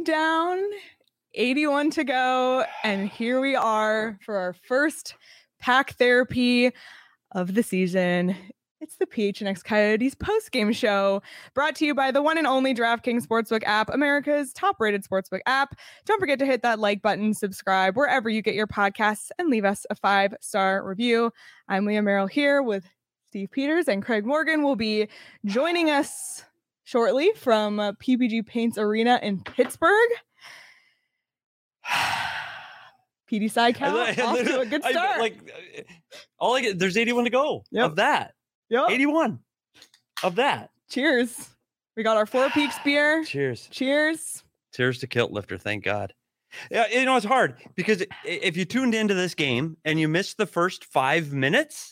down, 81 to go, and here we are for our first pack therapy of the season. It's the PHNX Coyotes post-game show, brought to you by the one and only DraftKings Sportsbook app, America's top-rated sportsbook app. Don't forget to hit that like button, subscribe wherever you get your podcasts, and leave us a 5-star review. I'm Leah Merrill here with Steve Peters, and Craig Morgan will be joining us shortly from PPG Paints Arena in Pittsburgh. PD side count off to a good start. There's 81 to go of that. Yep. 81 of that. Cheers. We got our Four Peaks beer. Cheers. Cheers. Cheers to Kilt Lifter. Thank God. Yeah, it's hard because if you tuned into this game and you missed the first 5 minutes,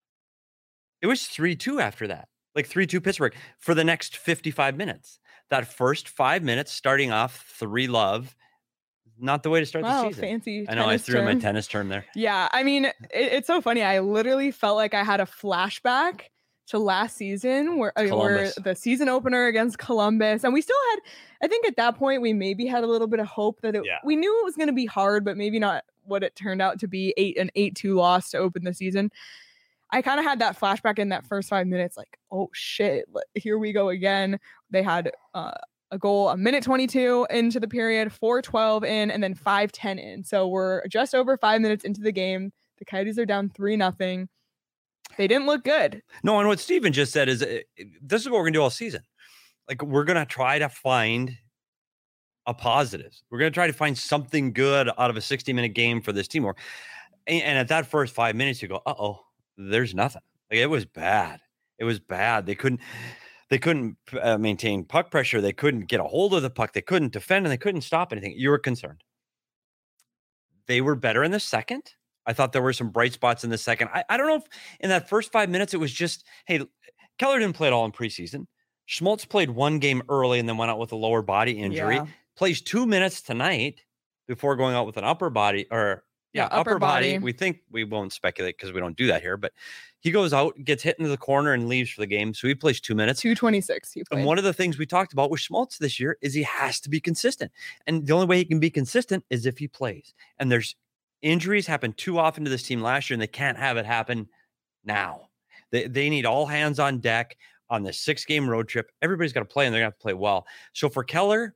it was 3-2 after that. Like 3-2 Pittsburgh for the next 55 minutes. That first 5 minutes starting off 3-love. Not the way to start the season. Fancy. I know I threw in my tennis term there. Yeah, I mean, it's so funny. I literally felt like I had a flashback to last season where the season opener against Columbus, and we still had. I think at that point we maybe had a little bit of hope that we knew it was going to be hard, but maybe not what it turned out to be. 8-2 loss to open the season. I kind of had that flashback in that first 5 minutes, like, oh shit, here we go again. They had a goal, a minute 22 into the period, 4:12 in, and then 5:10 in. So we're just over 5 minutes into the game. The Coyotes are down 3-0. They didn't look good. No, and what Steven just said is this is what we're going to do all season. Like, we're going to try to find a positive. We're going to try to find something good out of a 60-minute game for this team. And at that first 5 minutes, you go, uh-oh, there's nothing. Like, it was bad. It was bad. They couldn't maintain puck pressure. They couldn't get a hold of the puck. They couldn't defend, and they couldn't stop anything. You were concerned. They were better in the second. I thought there were some bright spots in the second. I don't know if in that first 5 minutes it was just, hey, Keller didn't play at all in preseason. Schmaltz played one game early and then went out with a lower body injury. Yeah. Plays 2 minutes tonight before going out with an upper body upper body. We think we won't speculate because we don't do that here, but he goes out, gets hit into the corner and leaves for the game. So he plays 2 minutes. 2:26. He played. And one of the things we talked about with Schmaltz this year is he has to be consistent. And the only way he can be consistent is if he plays. And there's injuries happen too often to this team last year, and they can't have it happen now. They need all hands on deck on this 6-game road trip. Everybody's got to play, and they're going to have to play well. So for Keller,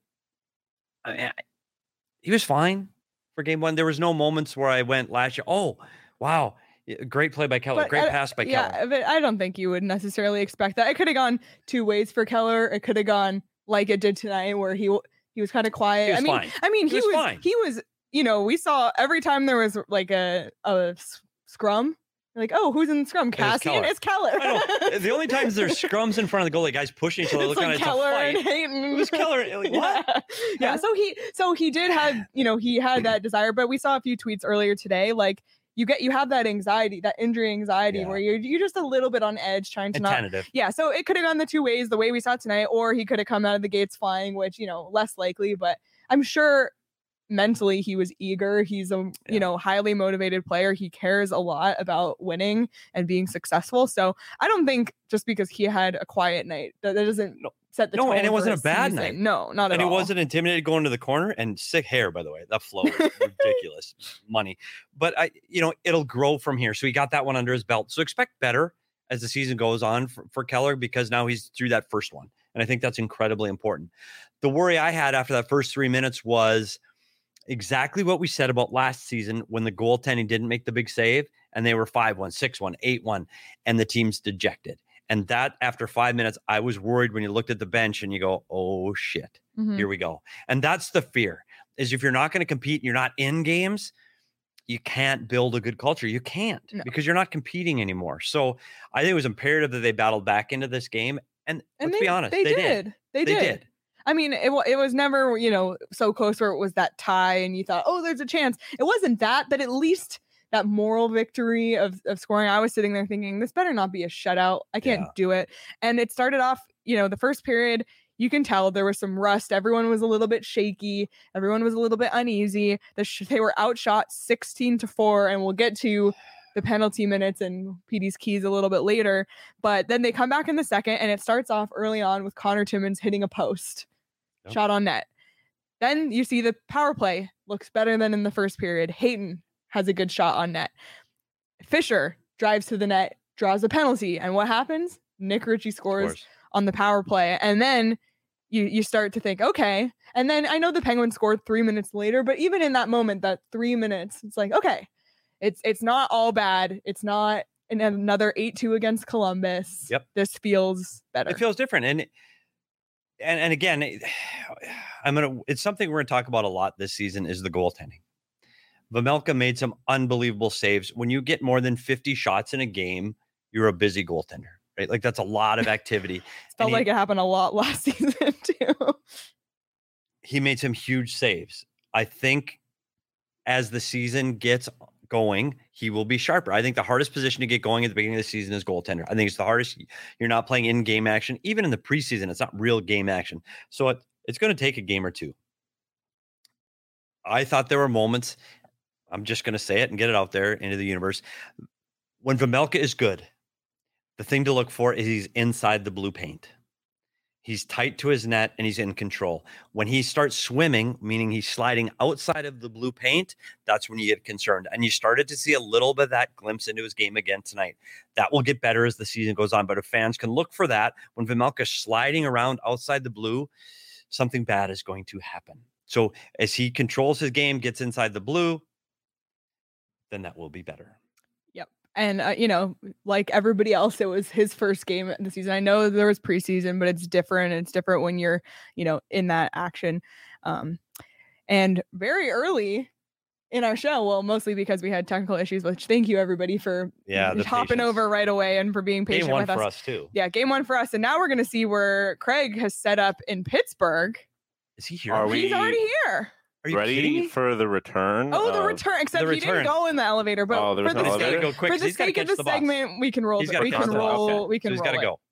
he was fine for game one. There was no moments where I went last year, oh, wow, great play by Keller, great pass by Keller. Yeah, but I don't think you would necessarily expect that. It could have gone two ways for Keller. It could have gone like it did tonight, where he was kind of quiet. He was fine. He was, you know, we saw every time there was like a scrum, like, oh, who's in the scrum? Cassian? It's Keller. The only times there's scrums in front of the goalie, guys pushing each other, looking at Keller it's a fight. and Hayton. It was Keller. Like, what? Yeah. So he did have, you know, he had that desire, but we saw a few tweets earlier today, like you have that anxiety, that injury anxiety, where you're just a little bit on edge, trying to tentative. Yeah. So it could have gone the two ways, the way we saw tonight, or he could have come out of the gates flying, which, you know, less likely, but I'm sure mentally he was eager. He's a you know, highly motivated player. He cares a lot about winning and being successful. So I don't think just because he had a quiet night that doesn't set the tone. No, and it wasn't a bad night. No, not at all. And he wasn't intimidated going to the corner, and sick hair, by the way. That flow was ridiculous money. But it'll grow from here. So he got that one under his belt. So expect better as the season goes on for Keller, because now he's through that first one. And I think that's incredibly important. The worry I had after that first 3 minutes was exactly what we said about last season when the goaltending didn't make the big save and they were 5-1, 6-1, 8-1, and the team's dejected. And that after 5 minutes, I was worried when you looked at the bench and you go, oh shit, here we go. And that's the fear, is if you're not going to compete, you're not in games, you can't build a good culture. You can't, because you're not competing anymore. So I think it was imperative that they battled back into this game. And let's be honest, they did. They did. I mean, it was never, you know, so close where it was that tie and you thought, oh, there's a chance. It wasn't that, but at least that moral victory of scoring. I was sitting there thinking, this better not be a shutout. I can't do it. And it started off, you know, the first period, you can tell there was some rust. Everyone was a little bit shaky. Everyone was a little bit uneasy. They were outshot 16-4, and we'll get to the penalty minutes and PD's keys a little bit later. But then they come back in the second, and it starts off early on with Connor Timmins hitting a post. Shot on net. Then you see the power play looks better than in the first period. Hayton has a good shot on net. Fisher drives to the net, draws a penalty. And what happens? Nick Ritchie scores on the power play. And then you start to think, okay. And then I know the Penguins scored 3 minutes later, but even in that moment, that 3 minutes, it's like, okay, it's not all bad. It's not another 8-2 against Columbus. Yep. This feels better. It feels different. And again, it's something we're going to talk about a lot this season is the goaltending. Vejmelka made some unbelievable saves. When you get more than 50 shots in a game, you're a busy goaltender, right? Like that's a lot of activity. It felt like it happened a lot last season too. He made some huge saves. I think as the season gets going, he will be sharper. I think the hardest position to get going at the beginning of the season is goaltender. I think it's the hardest. You're not playing in-game action. Even in the preseason, it's not real game action. So it's going to take a game or two. I thought there were moments, I'm just going to say it and get it out there into the universe. When Vejmelka is good, the thing to look for is he's inside the blue paint. He's tight to his net and he's in control. When he starts swimming, meaning he's sliding outside of the blue paint, that's when you get concerned. And you started to see a little bit of that glimpse into his game again tonight. That will get better as the season goes on. But if fans can look for that, when Vejmelka's sliding around outside the blue, something bad is going to happen. So as he controls his game, gets inside the blue, then that will be better. And, like everybody else, it was his first game of the season. I know there was preseason, but it's different. It's different when you're, in that action. And very early in our show, well, mostly because we had technical issues, which thank you, everybody, for hopping over right away and for being patient with us. Game 1 for us, too. Yeah, game 1 for us. And now we're going to see where Craig has set up in Pittsburgh. Is he here? He's already here. Are you ready for the return? Oh, the return! Except he didn't go in the elevator. But for the sake of the segment, we can roll. We can roll. We can roll. He's got to go.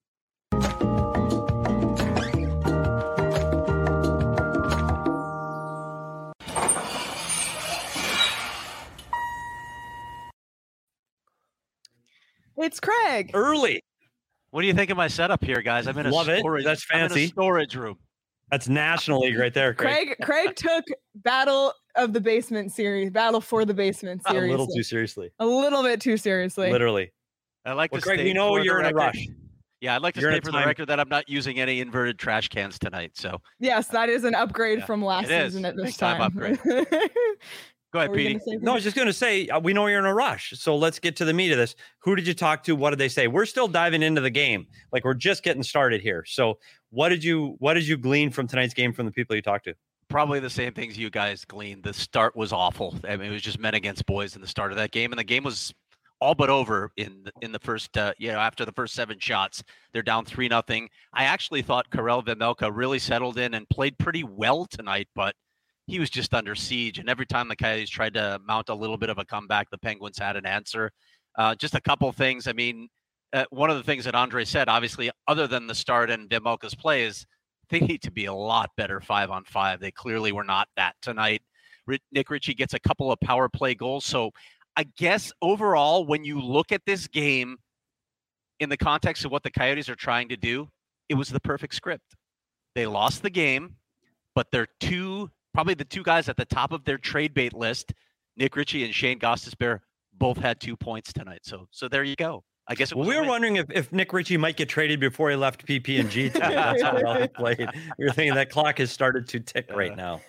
It's Craig. Early. What do you think of my setup here, guys? I'm in a storage. That's fancy. I'm in a storage room. That's National League right there, Craig. Craig took Battle of the Basement series, Battle for the Basement series. A little too seriously. A little bit too seriously. Literally. I like to Craig, we know you're in a rush. Yeah, I'd like to state for the record that I'm not using any inverted trash cans tonight. So yes, that is an upgrade from last season at this time. Upgrade. Go ahead, Petey. No, I was just going to say, we know you're in a rush. So let's get to the meat of this. Who did you talk to? What did they say? We're still diving into the game. Like we're just getting started here. So what did you glean from tonight's game from the people you talked to? Probably the same things you guys gleaned. The start was awful. I mean, it was just men against boys in the start of that game. And the game was all but over in the first, after the first 7 shots. They're down 3-0. I actually thought Karel Vejmelka really settled in and played pretty well tonight, but he was just under siege. And every time the Coyotes tried to mount a little bit of a comeback, the Penguins had an answer. Just a couple of things. I mean, one of the things that Andre said, obviously, other than the start and Vejmelka's play, is they need to be a lot better 5-on-5. They clearly were not that tonight. Nick Ritchie gets a couple of power play goals. So I guess overall, when you look at this game in the context of what the Coyotes are trying to do, it was the perfect script. They lost the game, but they're probably the 2 guys at the top of their trade bait list, Nick Ritchie and Shane Gostisbehere, both had 2 points tonight. So there you go. I guess we were wondering if Nick Ritchie might get traded before he left PP&G tonight. That's how well he played. We were thinking that clock has started to tick right now.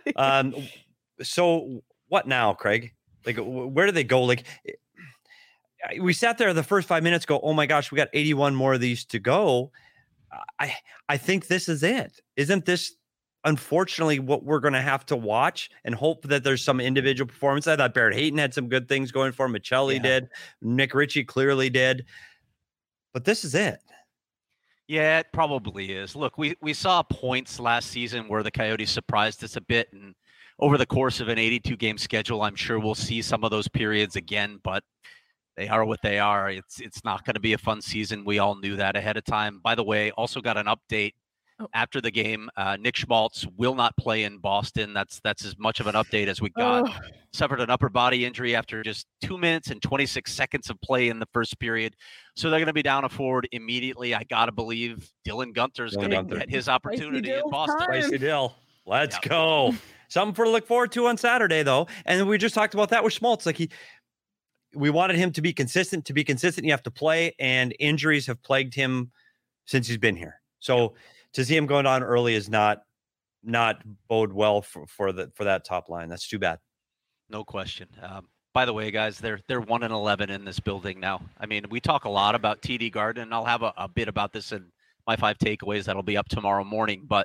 So what now, Craig? Like, where do they go? Like, we sat there the first 5 minutes, go, oh my gosh, we got 81 more of these to go. I think this is it. Isn't this unfortunately what we're going to have to watch and hope that there's some individual performance? I thought Barrett Hayton had some good things going for him. Michelli did. Nick Ritchie clearly did. But this is it. Yeah, it probably is. Look, we saw points last season where the Coyotes surprised us a bit. And over the course of an 82-game schedule, I'm sure we'll see some of those periods again. But they are what they are. It's not going to be a fun season. We all knew that ahead of time. By the way, also got an update. After the game, Nick Schmaltz will not play in Boston. That's as much of an update as we got. Suffered an upper body injury after just 2 minutes and 26 seconds of play in the first period. So they're going to be down a forward immediately. I got to believe Dylan Guenther's going to get his opportunity in Boston. Spicy Dill. Let's go. Something for to look forward to on Saturday, though. And we just talked about that with Schmaltz. Like we wanted him to be consistent. To be consistent, you have to play, and injuries have plagued him since he's been here. So to see him going down early is not bode well for that top line. That's too bad. No question. By the way, guys, they're 1-11 in this building now. I mean, we talk a lot about TD Garden, and I'll have a bit about this in my 5 takeaways that'll be up tomorrow morning. But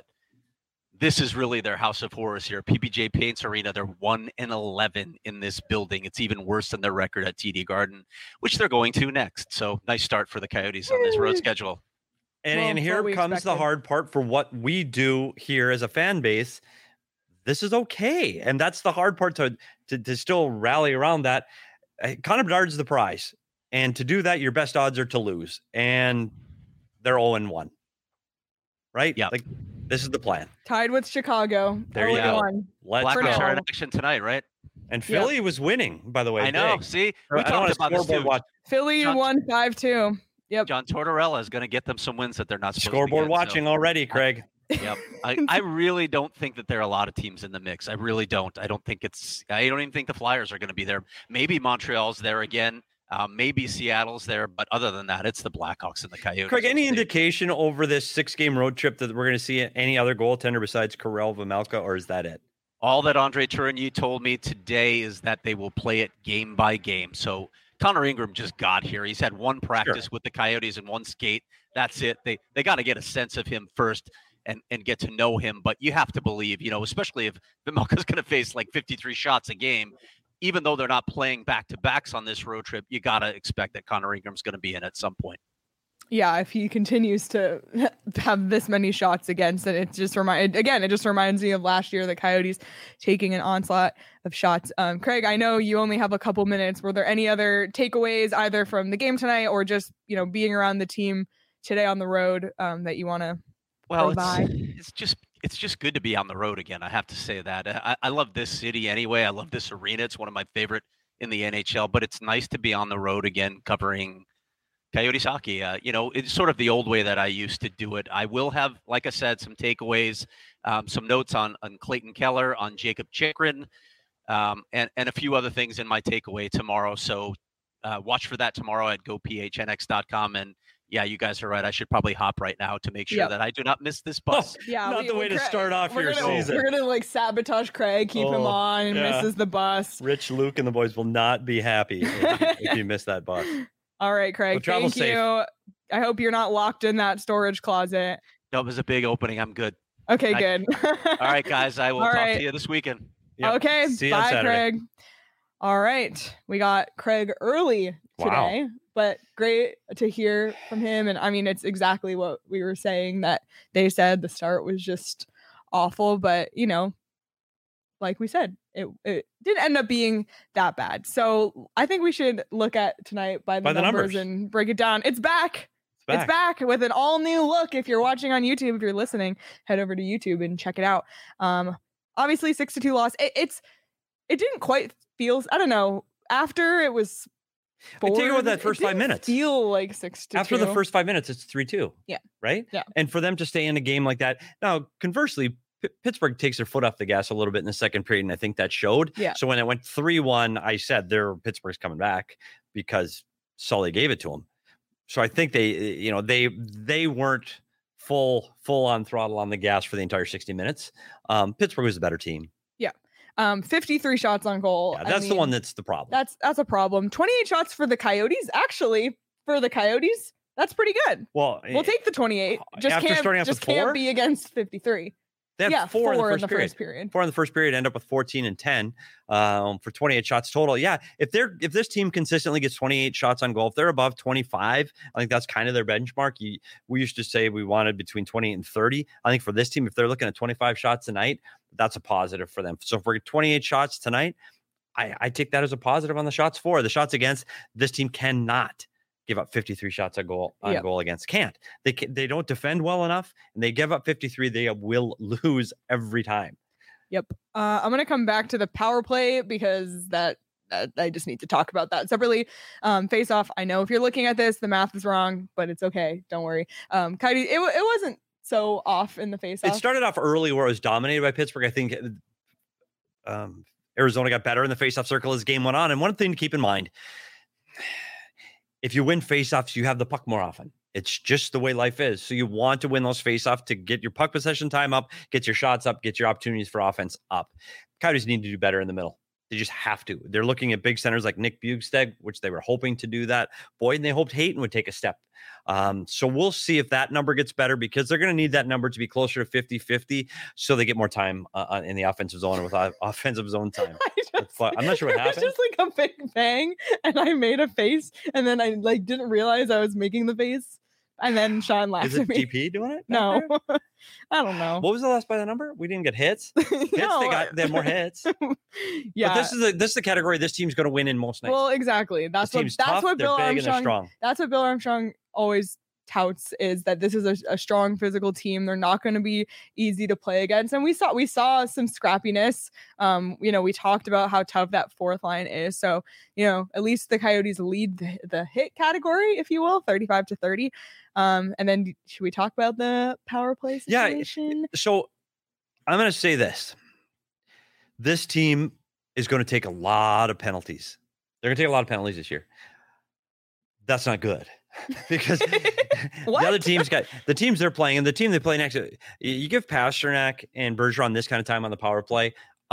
this is really their house of horrors here. PPG Paints Arena, they're 1-11 in this building. It's even worse than their record at TD Garden, which they're going to next. So nice start for the Coyotes on this road schedule. And here comes the hard part for what we do here as a fan base. This is okay. And that's the hard part to still rally around that. Connor Bedard's the prize. And to do that, your best odds are to lose. And they're 0-1. Right? Yeah. Like, this is the plan. Tied with Chicago. There you go. Blackhawks are in action tonight, right? And Philly was winning, by the way. I know. Big. See, we talked about this too. Philly won 5-2. Yep. John Tortorella is going to get them some wins that they're not supposed Scoreboard to get, watching already, Craig. Yep. I really don't think that there are a lot of teams in the mix. I really don't. I don't even think the Flyers are going to be there. Maybe Montreal's there again. Maybe Seattle's there. But other than that, it's the Blackhawks and the Coyotes. Craig, any indication over this 6-game road trip that we're going to see any other goaltender besides Karel Vejmelka, or is that it? All that Andre Tourigny told me today is that they will play it game by game. So Connor Ingram just got here. He's had one practice with the Coyotes and one skate. That's it. They got to get a sense of him first and get to know him. But you have to believe, especially if Vejmelka's going to face like 53 shots a game, even though they're not playing back-to-backs on this road trip, you got to expect that Connor Ingram's going to be in at some point. Yeah, if he continues to have this many shots against it, it just reminds me of last year, the Coyotes taking an onslaught of shots. Craig, I know you only have a couple minutes. Were there any other takeaways either from the game tonight or just, being around the team today on the road that you want to provide? It's just good to be on the road again. I have to say that. I love this city anyway. I love this arena. It's one of my favorite in the NHL, but it's nice to be on the road again covering Coyotes hockey. It's sort of the old way that I used to do it. I will have, like I said, some takeaways, some notes on Clayton Keller, on Jacob Chychrun, and a few other things in my takeaway tomorrow. So watch for that tomorrow at gophnx.com. And yeah, you guys are right. I should probably hop right now to make sure that I do not miss this bus. Not the way to start off your season. We're going to sabotage Craig, keep him on, and misses the bus. Rich, Luke, and the boys will not be happy if you miss that bus. All right, Craig, thank you. I hope you're not locked in that storage closet. No, it was a big opening. I'm good. Okay, good. All right, guys, I will talk to you this weekend. Yep. Okay, see you bye, on Saturday. Craig. All right, we got Craig early today, but great to hear from him. And I mean, it's exactly what we were saying, that they said the start was just awful, but like we said, it didn't end up being that bad. So I think we should look at tonight by the numbers and break it down. It's back. It's back with an all new look. If you're watching on YouTube, if you're listening, head over to YouTube and check it out. Obviously 6-2 loss. It didn't quite feel, I don't know, after it was forward, take it with that first 5 minutes. Feel like 6-2. After the first 5 minutes, it's 3-2. Yeah. Right? Yeah. And for them to stay in a game like that. Now, conversely, Pittsburgh takes their foot off the gas a little bit in the second period, and I think that showed. Yeah. So when it went 3-1, I said Pittsburgh's coming back because Sully gave it to them. So I think they weren't full on throttle on the gas for the entire 60 minutes. Pittsburgh was a better team. Yeah. 53 shots on goal. Yeah, that's the one that's the problem. That's a problem. 28 shots for the Coyotes. Actually, for the Coyotes, that's pretty good. Well, we'll take the 28. Just can't be against 53. They had 4 in the first period. 4 in the first period, end up with 14 and 10 for 28 shots total. Yeah, if this team consistently gets 28 shots on goal, if they're above 25, I think that's kind of their benchmark. We used to say we wanted between 28 and 30. I think for this team, if they're looking at 25 shots tonight, that's a positive for them. So if we're 28 shots tonight, I take that as a positive on the shots for. The shots against, this team cannot give up 53 shots on goal against. Can't. They don't defend well enough, and they give up 53. They will lose every time. Yep. I'm going to come back to the power play because that I just need to talk about that separately. Face off. I know if you're looking at this, the math is wrong, but it's okay. Don't worry. Coyotes, it wasn't so off in the face-off? It started off early where it was dominated by Pittsburgh. I think Arizona got better in the face-off circle as game went on. And one thing to keep in mind, if you win face-offs, you have the puck more often. It's just the way life is. So you want to win those face-offs to get your puck possession time up, get your shots up, get your opportunities for offense up. Coyotes need to do better in the middle. They just have to. They're looking at big centers like Nick Bjugstad, which they were hoping to do that. Boyd, and they hoped Hayton would take a step. So we'll see if that number gets better, because they're going to need that number to be closer to 50-50 so they get more time in the offensive zone with offensive zone time. I'm not sure what happened. It's just like a big bang, and I made a face, and then I didn't realize I was making the face. And then Sean laughed at me. Is it DP doing it? No, I don't know. What was the last by the number? We didn't get hits. They had more hits. Yeah, but this is the category this team's going to win in most nights. Well, exactly. That's what Bill Armstrong. That's what Bill Armstrong always touts, is that this is a strong physical team. They're not going to be easy to play against, and we saw some scrappiness. We talked about how tough that fourth line is. So at least the Coyotes lead the hit category, if you will, 35-30. And then should we talk about the power play situation? Yeah. So I'm going to say this. This team is going to take a lot of penalties. They're going to take a lot of penalties this year. That's not good, because the other teams the teams they're playing and the team they play next. You give Pasternak and Bergeron this kind of time on the power play.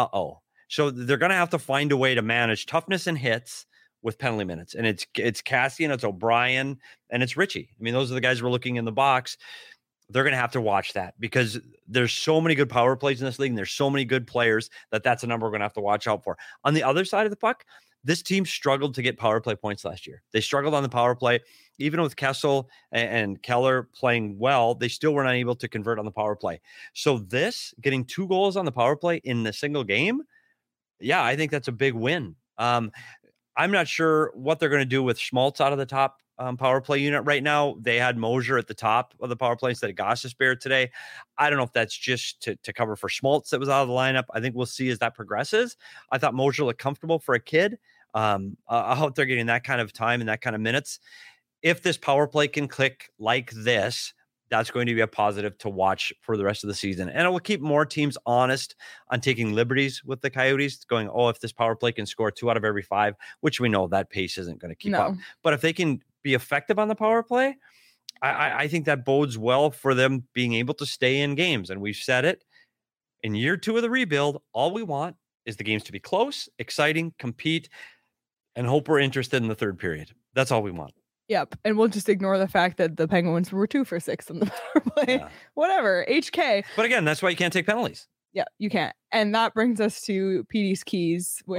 So they're going to have to find a way to manage toughness and hits with penalty minutes. And it's Cassie and it's O'Brien and it's Richie. I mean, those are the guys we're looking in the box. They're going to have to watch that, because there's so many good power plays in this league, and there's so many good players that's a number we're going to have to watch out for. On the other side of the puck, this team struggled to get power play points last year. They struggled on the power play. Even with Kessel and Keller playing well, they still were not able to convert on the power play. So getting 2 goals on the power play in the single game, yeah, I think that's a big win. I'm not sure what they're going to do with Schmaltz out of the top power play unit right now. They had Mosier at the top of the power play instead of Gostisbehere today. I don't know if that's just to cover for Schmaltz that was out of the lineup. I think we'll see as that progresses. I thought Mosier looked comfortable for a kid. I hope they're getting that kind of time and that kind of minutes. If this power play can click like this, that's going to be a positive to watch for the rest of the season. And it will keep more teams honest on taking liberties with the Coyotes, going, if this power play can score 2 out of every 5, which we know that pace isn't going to keep up. But if they can be effective on the power play, I think that bodes well for them being able to stay in games. And we've said it, in year 2 of the rebuild, all we want is the games to be close, exciting, compete, and hope we're interested in the third period. That's all we want. Yep. And we'll just ignore the fact that the Penguins were 2 for 6 on the power play. Yeah. Whatever. HK. But again, that's why you can't take penalties. Yeah, you can't. And that brings us to PD's keys. Which...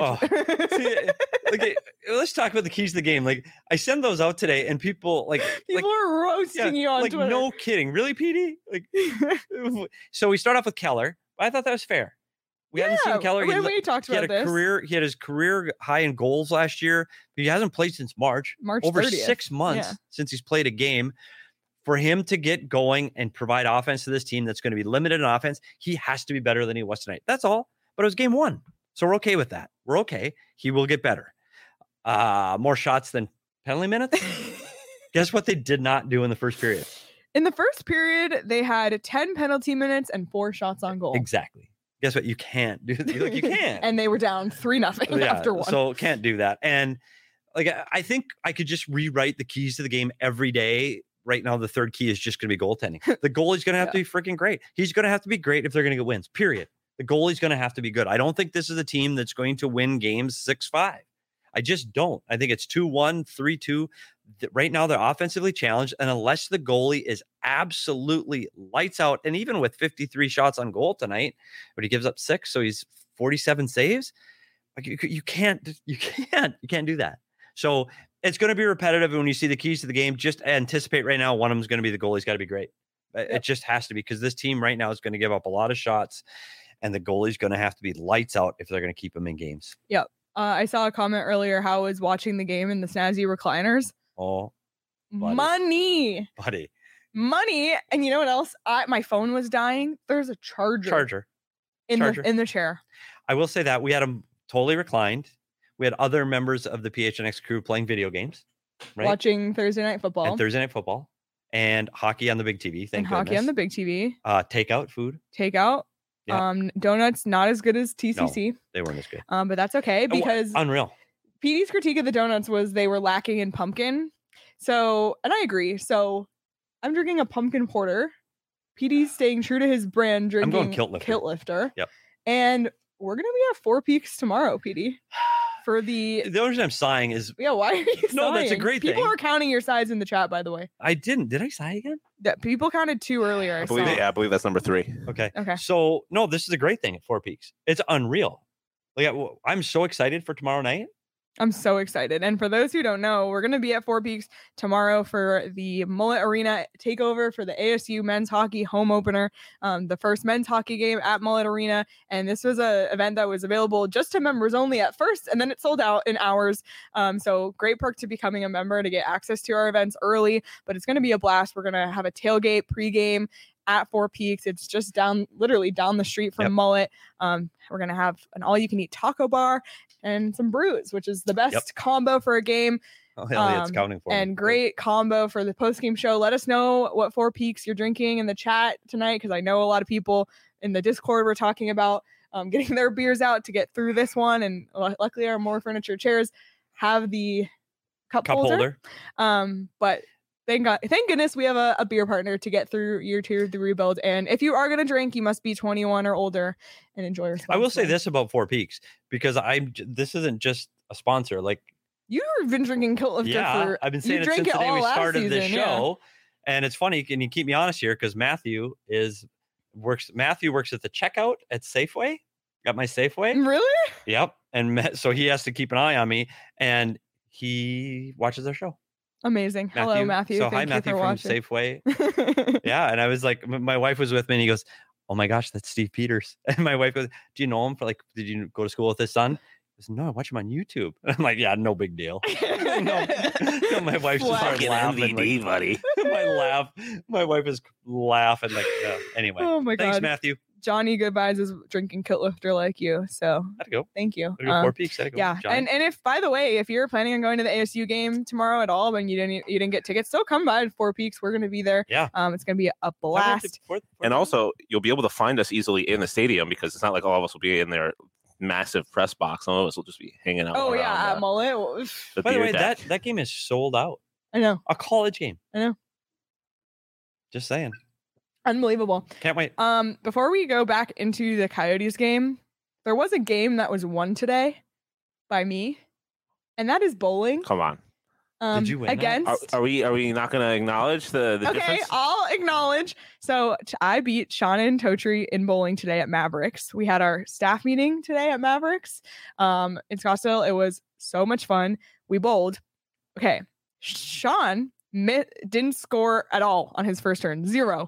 let's talk about the keys to the game. I send those out today, and people are roasting you on Twitter. No kidding. Really, PD? So we start off with Keller. I thought that was fair. We hadn't seen Keller. We talked about this. He had his career high in goals last year, but he hasn't played since March. Over 30th. 6 months since he's played a game. For him to get going and provide offense to this team that's going to be limited in offense, he has to be better than he was tonight. That's all. But it was game 1. So we're okay with that. We're okay. He will get better. More shots than penalty minutes. Guess what they did not do in the first period? In the first period, they had 10 penalty minutes and 4 shots on goal. Exactly. Guess what? You can't do that. You can't. And they were down 3-0 after 1. So can't do that. And I think I could just rewrite the keys to the game every day. Right now, the third key is just going to be goaltending. The goalie's going to have to be freaking great. He's going to have to be great if they're going to get wins, period. The goalie's going to have to be good. I don't think this is a team that's going to win games 6-5. I just don't. I think it's 2-1, 3-2. Right now, they're offensively challenged. And unless the goalie is absolutely lights out, and even with 53 shots on goal tonight, but he gives up 6, so he's 47 saves. You can't do that. So it's going to be repetitive. And when you see the keys to the game, just anticipate right now, one of them is going to be the goalie's got to be great. It just has to be, because this team right now is going to give up a lot of shots, and the goalie's going to have to be lights out if they're going to keep them in games. Yep. I saw a comment earlier how I was watching the game in the snazzy recliners. Oh, buddy. Money. And you know what else? My phone was dying. There's a charger. In the chair. I will say that we had them totally reclined. We had other members of the PHNX crew playing video games, right? Watching Thursday Night Football. and hockey on the big TV. Thank goodness. Hockey on the big TV. Takeout food. Takeout. Yeah. Donuts not as good as TCC. No, they weren't as good. But that's okay because unreal. PD's critique of the donuts was they were lacking in pumpkin. So, and I agree. So, I'm drinking a pumpkin porter. PD's staying true to his brand, drinking I'm going Kilt Lifter. Yep. And we're gonna be at Four Peaks tomorrow, PD. For the only reason I'm sighing is why are you sighing? No, that's a great thing. People are counting your sides in the chat, by the way. I didn't. Did I sigh again? Yeah, people counted 2 earlier. I believe that's number 3. Okay. Okay. So no, this is a great thing at Four Peaks. It's unreal. Like I'm so excited for tomorrow night. I'm so excited. And for those who don't know, we're going to be at Four Peaks tomorrow for the Mullet Arena takeover for the ASU men's hockey home opener, the first men's hockey game at Mullet Arena. And this was an event that was available just to members only at first, and then it sold out in hours. So great perk to becoming a member to get access to our events early, but it's going to be a blast. We're going to have a tailgate pregame at Four Peaks. It's just literally down the street from Mullet. We're going to have an all-you-can-eat taco bar and some brews, which is the best combo for a game. Oh, hell yeah, it's counting for and me. Great combo for the post-game show. Let us know what Four Peaks you're drinking in the chat tonight, because I know a lot of people in the Discord were talking about getting their beers out to get through this one. And luckily our More Furniture chairs have the cup holder. But thank goodness we have a beer partner to get through year 2 of the rebuild. And if you are going to drink, you must be 21 or older and enjoy responsibly. I will say this about Four Peaks, because this isn't just a sponsor. Like, you've been drinking Kilt Lifter for... I've been saying it since the day we started this show. Yeah. And it's funny, can you keep me honest here? Because Matthew works at the checkout at Safeway. Got my Safeway. Really? Yep. And so he has to keep an eye on me, and he watches our show. Amazing. Hello, Matthew. So hi, Matthew from Safeway. Yeah. And I was like, my wife was with me, and he goes, "Oh my gosh, that's Steve Peters." And my wife goes, "Do you know him? Did you go to school with his son?" He goes, "No, I watch him on YouTube." And I'm like, "Yeah, no big deal." no, my wife's just started laughing. MVD, buddy. My wife is laughing. Like, anyway. Oh my God. Thanks, Matthew. Johnny Goodbyes is drinking Kilt Lifter like you, so I'd go. Thank you. Four Peaks. I'd go. Yeah, Johnny. and if, by the way, if you're planning on going to the ASU game tomorrow at all, and you didn't get tickets, still come by Four Peaks. We're going to be there. Yeah. It's going to be a blast. And also, you'll be able to find us easily in the stadium, because it's not like all of us will be in their massive press box. Some of us will just be hanging out. Oh yeah, at Mullet. By the way, that game is sold out. I know. A college game. I know. Just saying. Unbelievable. Can't wait. Before we go back into the Coyotes game, there was a game that was won today by me, and that is bowling. Come on. Did you win against? Are we not going to acknowledge the difference? Okay, I'll acknowledge. So I beat Sean and Totri in bowling today at Mavericks. We had our staff meeting today at Mavericks in Scottsdale. It was so much fun. We bowled. Okay, Sean didn't score at all on his first turn. 0.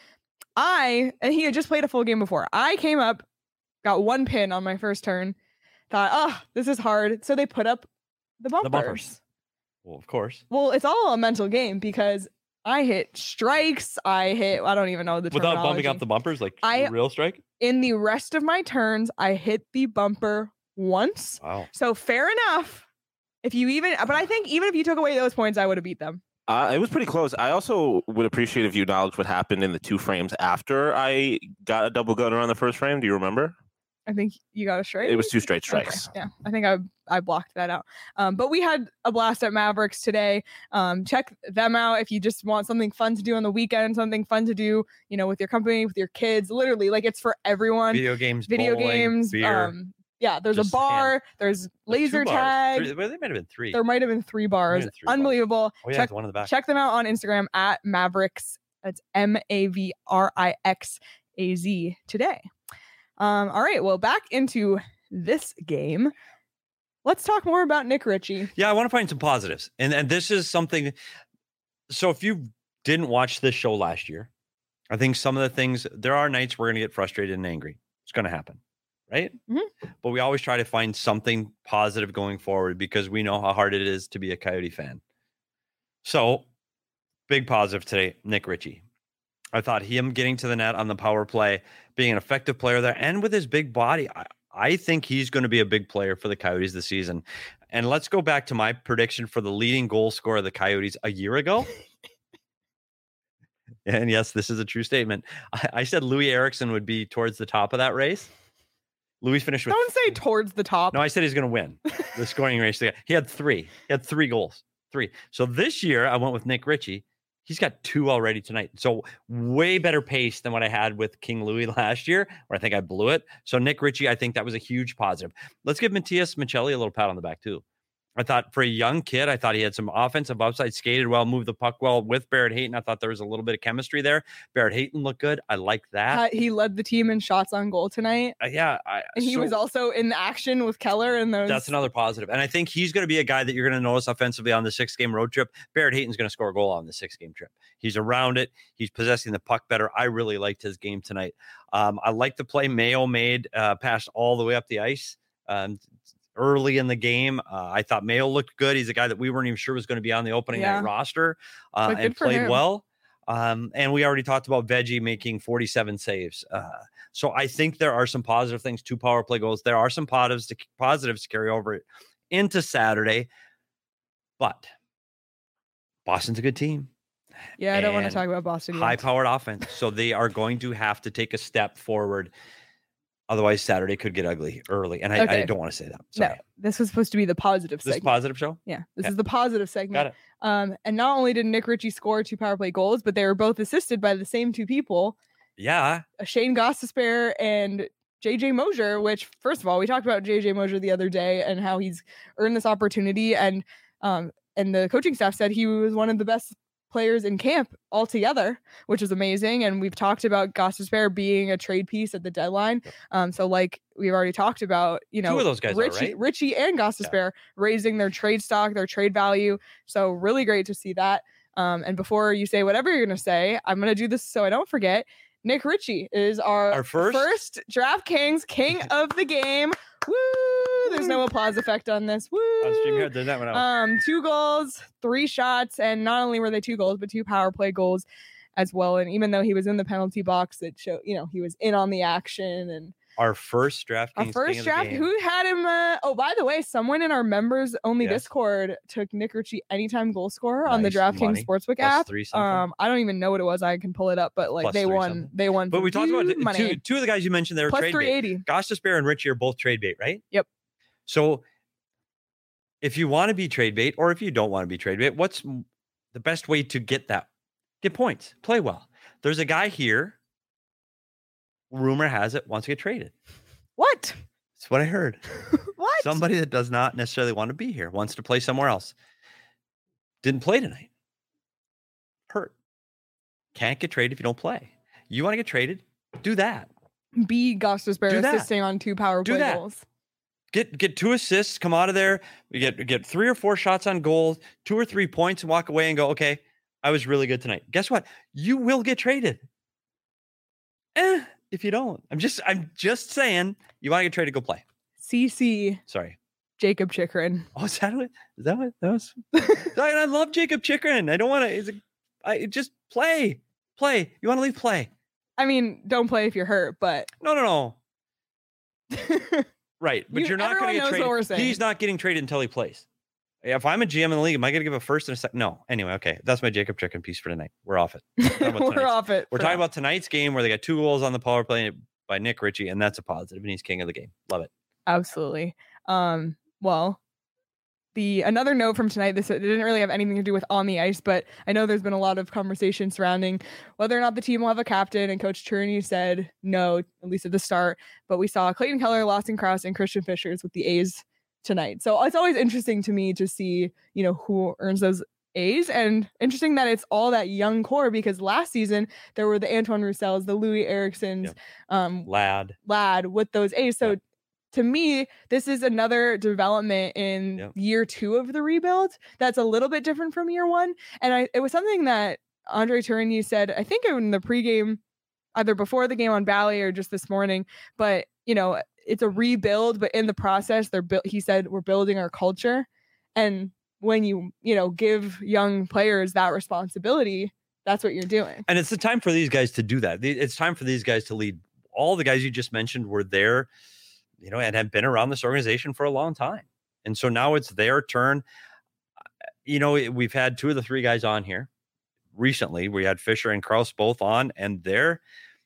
And he had just played a full game before. I came up, got 1 pin on my first turn, thought, oh, this is hard. So they put up the bumpers. Well, of course. Well, it's all a mental game, because I hit strikes. I don't even know the terminology. Without bumping up the bumpers, like real strike? In the rest of my turns, I hit the bumper once. Wow. So fair enough. But I think even if you took away those points, I would have beat them. It was pretty close. I also would appreciate if you acknowledged what happened in the 2 frames after I got a double gunner on the first frame. Do you remember? I think you got a straight. It was 2 straight strikes. Okay. Yeah, I think I blocked that out. But we had a blast at Mavericks today. Check them out if you just want something fun to do on the weekend, something fun to do, with your company, with your kids. Literally, like, it's for everyone. Video games, beer. Yeah, there's a bar. There's laser tag. There might have been 3. There might have been 3 bars. Unbelievable. Oh, yeah, one in the back. Check them out on Instagram at Mavericks. That's MAVRIXAZ today. All right. Well, back into this game. Let's talk more about Nick Ritchie. Yeah, I want to find some positives. And this is something. So if you didn't watch this show last year, I think some of the things, there are nights we're going to get frustrated and angry. It's going to happen. Right? Mm-hmm. But we always try to find something positive going forward, because we know how hard it is to be a Coyote fan. So, big positive today, Nick Ritchie. I thought him getting to the net on the power play, being an effective player there, and with his big body, I think he's going to be a big player for the Coyotes this season. And let's go back to my prediction for the leading goal scorer of the Coyotes a year ago. And yes, this is a true statement. I said Louis Eriksson would be towards the top of that race. Louis finished with. Don't say towards the top. No, I said he's going to win the scoring race. He had 3. He had 3 goals. 3. So this year I went with Nick Ritchie. He's got 2 already tonight. So way better pace than what I had with King Louis last year, where I think I blew it. So Nick Ritchie, I think that was a huge positive. Let's give Matias Maccelli a little pat on the back too. I thought for a young kid, I thought he had some offensive upside, skated well, moved the puck well with Barrett Hayton. I thought there was a little bit of chemistry there. Barrett Hayton looked good. I like that. He led the team in shots on goal tonight. And he was also in action with Keller and those. That's another positive. And I think he's going to be a guy that you're going to notice offensively on the 6-game road trip. Barrett Hayton's going to score a goal on the 6-game trip. He's around it. He's possessing the puck better. I really liked his game tonight. I like the play Mayo made, passed all the way up the ice. Early in the game, I thought Mayo looked good. He's a guy that we weren't even sure was going to be on the opening night roster and played well. And we already talked about Veggie making 47 saves. So I think there are some positive things, 2 power play goals. There are some positives to carry over into Saturday. But Boston's a good team. Yeah, I don't want to talk about Boston. High-powered offense. So they are going to have to take a step forward. Otherwise, Saturday could get ugly early. And I don't want to say that. Sorry. No, this was supposed to be the positive segment. This positive show? Yeah, this is the positive segment. Got it. And not only did Nick Ritchie score 2 power play goals, but they were both assisted by the same 2 people. Yeah. Shane Gostisbehere and JJ Mosier, which, first of all, we talked about JJ Mosier the other day and how he's earned this opportunity. And the coaching staff said he was one of the best players in camp altogether, which is amazing. And we've talked about Gostisbehere being a trade piece at the deadline. So like we've already talked about, 2 of those guys Ritchie and Gostisbehere raising their trade stock, their trade value. So really great to see that. And before you say whatever you're going to say, I'm going to do this so I don't forget. Nick Ritchie is our first DraftKings king of the game. Woo! There's no applause effect on this. Woo! On StreamYard, there's that one out. 2 goals, 3 shots, and not only were they 2 goals, but 2 power play goals as well. And even though he was in the penalty box, it showed, he was in on the action. And our first DraftKings king of the game. Who had him? By the way, someone in our members only Discord took Nick Ritchie anytime goal scorer on the DraftKings Sportsbook app. I don't even know what it was. I can pull it up, but like plus they won. They won. But we talked about two of the guys you mentioned there. Plus trade 380. bait. Gostisbehere and Ritchie are both trade bait, right? Yep. So if you want to be trade bait, or if you don't want to be trade bait, what's the best way to get points? Play well. There's a guy here. Rumor has it wants to get traded. What? That's what I heard. What? Somebody that does not necessarily want to be here, wants to play somewhere else. Didn't play tonight. Hurt. Can't get traded if you don't play. You want to get traded? Do that. Be Gostisbehere assisting on 2 power play goals. Get 2 assists, come out of there. We get 3 or 4 shots on goal, 2 or 3 points, and walk away and go, okay, I was really good tonight. Guess what? You will get traded. If you don't. I'm just saying, you want to get traded, go play. CC. Sorry. Jacob Chychrun. Oh, is that what that was? I love Jacob Chychrun. I don't want to. Just play. Play. You want to leave? Play. I mean, don't play if you're hurt, but. No. Right. But you're not going to get traded. He's not getting traded until he plays. If I'm a GM in the league, am I going to give a first and a second? No. Anyway, okay. That's my Jacob Chychrun piece for tonight. We're off it. We're off it. We're talking about tonight's game where they got 2 goals on the power play by Nick Ritchie, and that's a positive, and he's king of the game. Love it. Absolutely. Well, another note from tonight, it didn't really have anything to do with on the ice, but I know there's been a lot of conversation surrounding whether or not the team will have a captain, and Coach Cherney said no, at least at the start. But we saw Clayton Keller, Lawson Crouse, and Christian Fishers with the A's tonight. So it's always interesting to me to see, who earns those A's, and interesting that it's all that young core, because last season there were the Antoine Roussells, the Louis Erikssons, Lad with those A's. So to me, this is another development in year 2 of the rebuild that's a little bit different from year 1. And it was something that Andre Tourigny said, I think in the pregame, either before the game on Bally or just this morning, but it's a rebuild, but in the process, he said, we're building our culture. And when you give young players that responsibility, that's what you're doing. And it's the time for these guys to do that. It's time for these guys to lead. All the guys you just mentioned were there, and have been around this organization for a long time. And so now it's their turn. We've had 2 of the 3 guys on here. recently. We had Fisher and Krause both on, and they're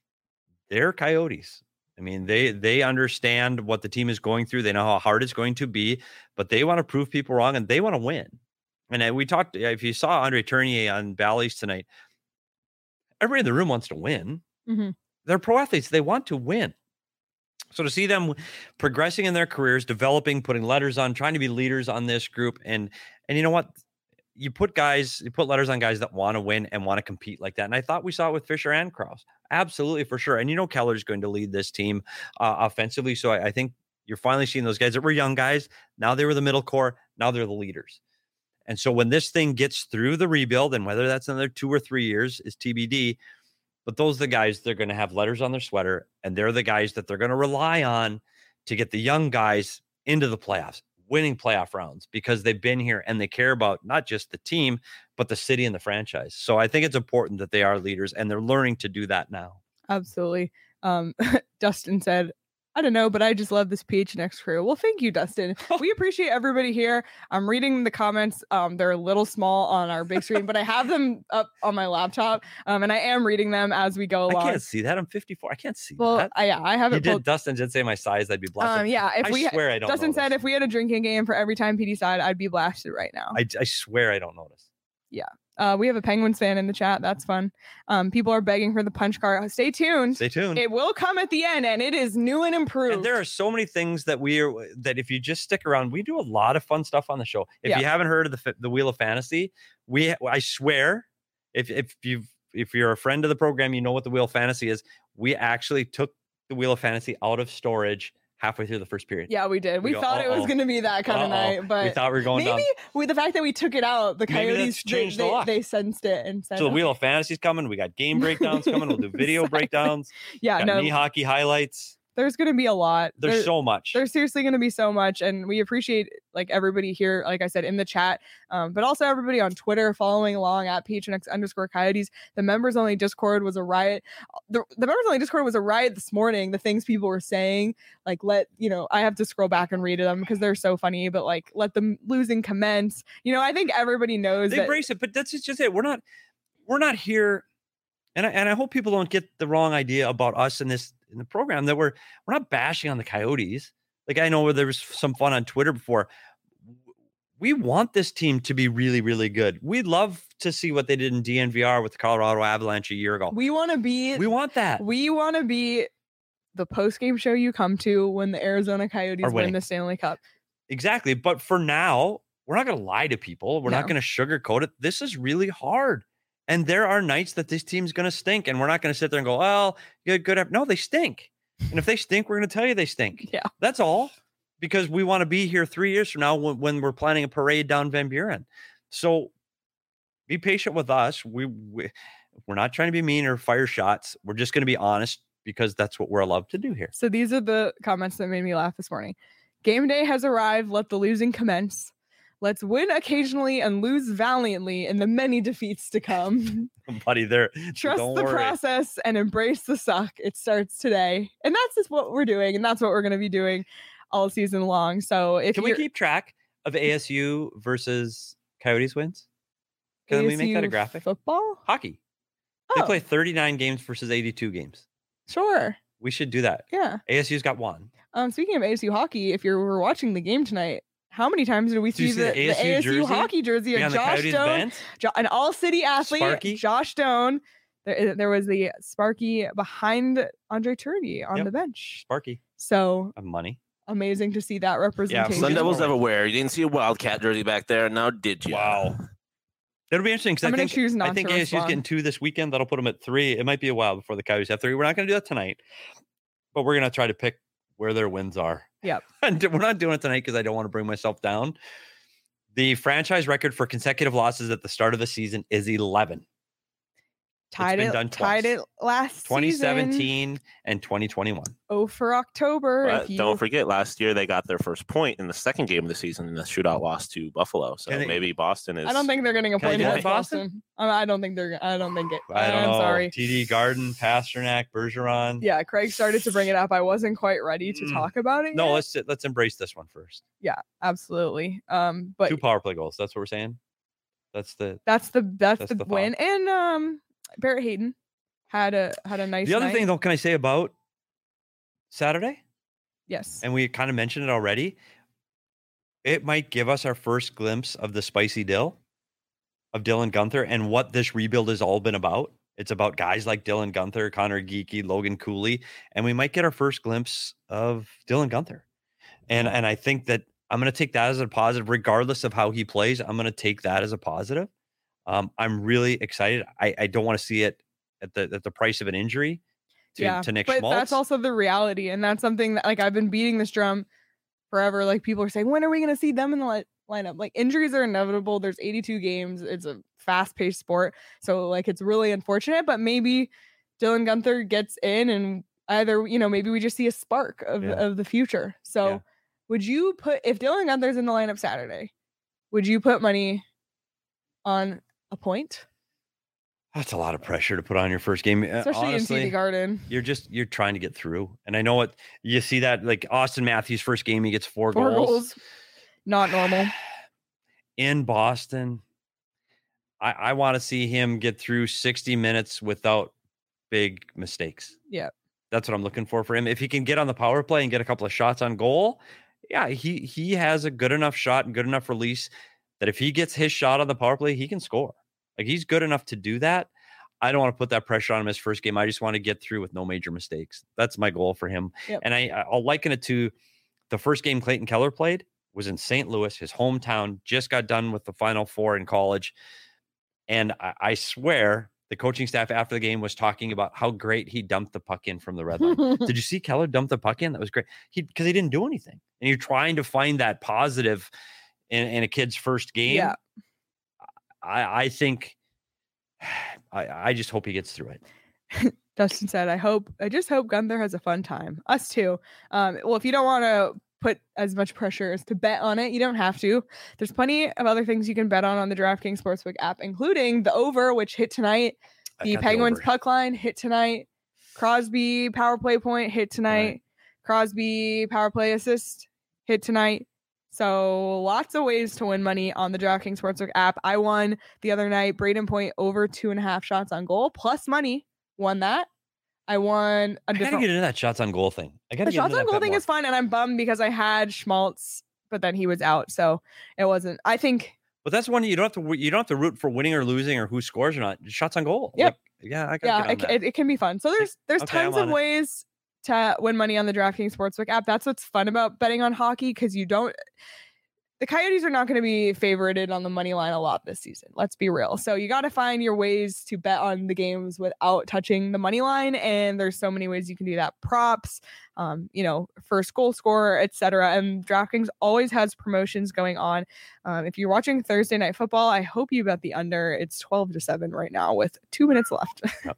Coyotes. I mean, they understand what the team is going through. They know how hard it's going to be, but they want to prove people wrong and they want to win. And we talked, if you saw Andre Tournier on Bally's tonight, everybody in the room wants to win. Mm-hmm. They're pro athletes. They want to win. So to see them progressing in their careers, developing, putting letters on, trying to be leaders on this group. And you know what? You put letters on guys that want to win and want to compete like that. And I thought we saw it with Fisher and Krause. Absolutely, for sure. And Keller's going to lead this team offensively. So I think you're finally seeing those guys that were young guys. Now they were the middle core. Now they're the leaders. And so when this thing gets through the rebuild, and whether that's another 2 or 3 years is TBD, but those are the guys they're going to have letters on their sweater, and they're the guys that they're going to rely on to get the young guys into the playoffs, winning playoff rounds, because they've been here and they care about not just the team, but the city and the franchise. So I think it's important that they are leaders, and they're learning to do that now. Absolutely. Dustin said, I don't know, but I just love this PHNX crew. Well, thank you, Dustin. We appreciate everybody here. I'm reading the comments. They're a little small on our big screen, but I have them up on my laptop, and I am reading them as we go along. I can't see that. I'm 54. I can't see that. Well, I have it. Dustin did say my size. I'd be blasted. Yeah. I swear I don't Dustin notice. said if we had a drinking game for every time PD sighed, I'd be blasted right now. I swear I don't notice. Yeah. We have a Penguins fan in the chat. That's fun. People are begging for the punch card. Stay tuned. It will come at the end, and it is new and improved. And there are so many things that that if you just stick around, we do a lot of fun stuff on the show. If you haven't heard of the Wheel of Fantasy, I swear, if you're a friend of the program, you know what the Wheel of Fantasy is. We actually took the Wheel of Fantasy out of storage halfway through the first period. Yeah, we did. We thought it was going to be that kind of night, but we thought we were going maybe down. With the fact that we took it out, the Coyotes they sensed it and said, so the Wheel of Fantasy's coming. We got game breakdowns coming. We'll do video breakdowns. Yeah, knee hockey highlights. There's going to be a lot. There's so much. There's seriously going to be so much. And we appreciate everybody here, like I said, in the chat, but also everybody on Twitter following along at PHNX_Coyotes. The members only Discord was a riot. The members only Discord was a riot this morning. The things people were saying, I have to scroll back and read them because they're so funny, but let them losing commence. I think everybody knows they embrace it, but that's just it. We're not here. And I hope people don't get the wrong idea about us in the program, that we're not bashing on the Coyotes. I know where there was some fun on Twitter before. We want this team to be really, really good. We'd love to see what they did in DNVR with the Colorado Avalanche a year ago. We want that. We want to be the post-game show you come to when the Arizona Coyotes win the Stanley Cup. Exactly. But for now, we're not going to lie to people. We're not going to sugarcoat it. This is really hard. And there are nights that this team's going to stink, and we're not going to sit there and go, well, good. No, they stink. And if they stink, we're going to tell you they stink. Yeah. That's all, because we want to be here 3 years from now when we're planning a parade down Van Buren. So be patient with us. We're not trying to be mean or fire shots. We're just going to be honest, because that's what we're allowed to do here. So these are the comments that made me laugh this morning. Game day has arrived. Let the losing commence. Let's win occasionally and lose valiantly in the many defeats to come. Buddy, trust the process and embrace the suck. It starts today. And that's just what we're doing. And that's what we're going to be doing all season long. So can we keep track of ASU versus Coyotes wins? Can we make that a graphic? Football? Hockey. They play 39 games versus 82 games. Sure. We should do that. Yeah. ASU's got one. Speaking of ASU hockey, if you were watching the game tonight, how many times did we see the ASU hockey jersey of Josh Stone, an all-city athlete, Sparky? Josh Stone? There was the Sparky behind Andre Tournier on the bench. Sparky. So money. Amazing to see that representation. Sun Devils everywhere. You didn't see a Wildcat jersey back there. Now did you? Wow. It'll be interesting, because I think ASU's getting 2 this weekend. That'll put them at 3. It might be a while before the Coyotes have 3. We're not going to do that tonight, but we're going to try to pick where their wins are. Yep. And we're not doing it tonight because I don't want to bring myself down. The franchise record for consecutive losses at the start of the season is 11. Tied it last 2017 and 2021. Oh, for October. Don't forget, last year they got their first point in the second game of the season in the shootout loss to Buffalo. So maybe Boston is. I don't think they're getting a point against Boston. I don't think it. I don't know. I'm sorry. TD Garden, Pasternak, Bergeron. Yeah, Craig started to bring it up. I wasn't quite ready to talk about it. No, yet. let's embrace this one first. Yeah, absolutely. But 2 power play goals. That's what we're saying. That's the win. And Barrett Hayton had a nice. The other night. thing, though, can I say about Saturday? Yes. And we kind of mentioned it already. It might give us our first glimpse of the spicy dill of Dylan Guenther and what this rebuild has all been about. It's about guys like Dylan Guenther, Connor Geekie, Logan Cooley, and we might get our first glimpse of Dylan Guenther. And I think that I'm going to take that as a positive, regardless of how he plays. I'm going to take that as a positive. I'm really excited. I don't want to see it at the price of an injury to Nick Schmaltz. But that's also the reality, and that's something that, like, I've been beating this drum forever. Like, people are saying, when are we going to see them in the lineup? Like, injuries are inevitable. There's 82 games. It's a fast-paced sport, so like it's really unfortunate. But maybe Dylan Guenther gets in, and either maybe we just see a spark of the future. So, would you if Dylan Guenther's in the lineup Saturday? Would you put money on a point? That's a lot of pressure to put on your first game, especially honestly, in TD Garden. You're trying to get through, and I know what you see that, like Austin Matthews' first game, he gets four goals. Not normal. In Boston, I want to see him get through 60 minutes without big mistakes. Yeah, that's what I'm looking for him. If he can get on the power play and get a couple of shots on goal, he has a good enough shot and good enough release that if he gets his shot on the power play, he can score. Like, he's good enough to do that. I don't want to put that pressure on him his first game. I just want to get through with no major mistakes. That's my goal for him. Yep. And I'll liken it to the first game Clayton Keller played was in St. Louis, his hometown, just got done with the Final Four in college. And I swear the coaching staff after the game was talking about how great he dumped the puck in from the red line. Did you see Keller dump the puck in? That was great. Because he didn't do anything. And you're trying to find that positive in a kid's first game. Yeah. I think I just hope he gets through it. Dustin said, I just hope Guenther has a fun time. Us too. Well, if you don't want to put as much pressure as to bet on it, you don't have to. There's plenty of other things you can bet on the DraftKings Sportsbook app, including the over, which hit tonight. The Penguins puck line hit tonight. Crosby power play point hit tonight. Right. Crosby power play assist hit tonight. So lots of ways to win money on the DraftKings Sportsbook app. I won the other night, Braden Point over 2.5 shots on goal plus money. Won that. I won a different. I gotta get into that shots on goal thing. The shots on goal thing is fun, and I'm bummed because I had Schmaltz, but then he was out, so it wasn't. I think. But that's one you don't have to root for winning or losing or who scores or not. Shots on goal. Yep. It can be fun. So there's tons of ways to win money on the DraftKings Sportsbook app. That's what's fun about betting on hockey, because the Coyotes are not going to be favorited on the money line a lot this season. Let's be real. So you got to find your ways to bet on the games without touching the money line. And there's so many ways you can do that. Props, first goal scorer, etc. And DraftKings always has promotions going on. If you're watching Thursday Night Football, I hope you bet the under. It's 12-7 right now with 2 minutes left.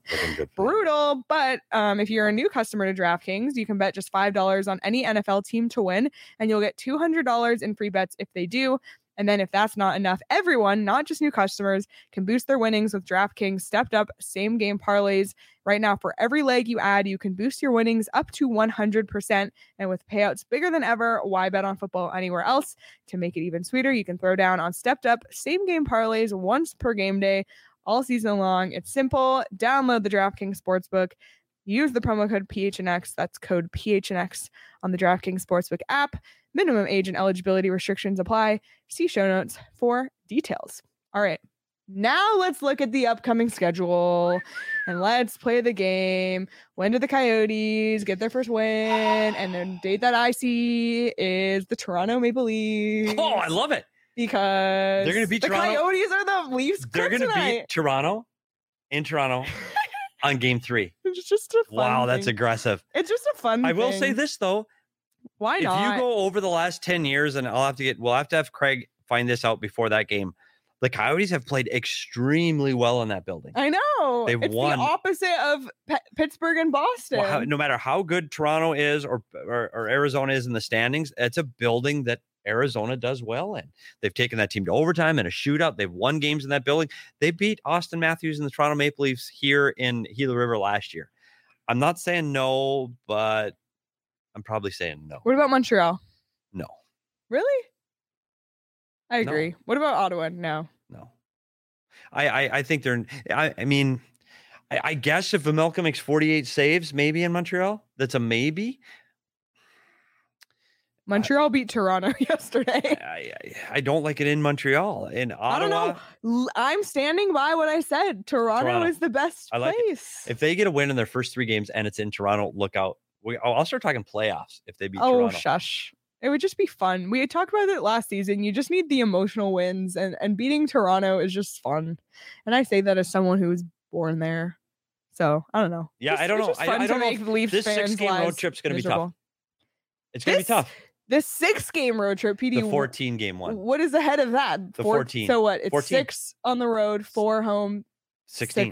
Brutal. But if you're a new customer to DraftKings, you can bet just $5 on any NFL team to win, and you'll get $200 in free bets if they do. And then if that's not enough, everyone, not just new customers, can boost their winnings with DraftKings stepped up same game parlays. Right now, for every leg you add, you can boost your winnings up to 100%. And with payouts bigger than ever, why bet on football anywhere else? To make it even sweeter, you can throw down on stepped up same game parlays once per game day all season long. It's simple. Download the DraftKings Sportsbook. Use the promo code PHNX. That's code PHNX on the DraftKings Sportsbook app. Minimum age and eligibility restrictions apply. See show notes for details. All right. Now let's look at the upcoming schedule and let's play the game. When do the Coyotes get their first win? And the date that I see is the Toronto Maple Leafs. Oh, I love it. Because they're going to beat the Toronto. Coyotes are the Leafs. They're going to beat Toronto in Toronto on game 3. It's just a fun thing. That's aggressive. It's just a fun thing. I will say this, though. Why not? If you go over the last 10 years, and we'll have to have Craig find this out before that game. The Coyotes have played extremely well in that building. I know. They've won. The opposite of Pittsburgh and Boston. Well, no matter how good Toronto is or Arizona is in the standings, it's a building that Arizona does well in. They've taken that team to overtime in a shootout. They've won games in that building. They beat Austin Matthews and the Toronto Maple Leafs here in Gila River last year. I'm not saying no, but I'm probably saying no. What about Montreal? No. Really? I agree. No. What about Ottawa? No. I think they're. I mean, I guess if Vejmelka makes 48 saves, maybe in Montreal, that's a maybe. Montreal beat Toronto yesterday. I don't like it in Montreal. In Ottawa, I don't know. I'm standing by what I said. Toronto is the best place. If they get a win in their first 3 games and it's in Toronto, look out. I'll start talking playoffs if they beat Toronto. Oh, shush. It would just be fun. We had talked about it last season. You just need the emotional wins, and beating Toronto is just fun. And I say that as someone who was born there. So I don't know. Yeah, I don't know. I don't know if this 6-game road trip's going to be tough. It's going to be tough. The 6-game road trip, PD. The 14-game one. What is ahead of that? The 14. So what? It's 14. 6 on the road, 4 home. 16.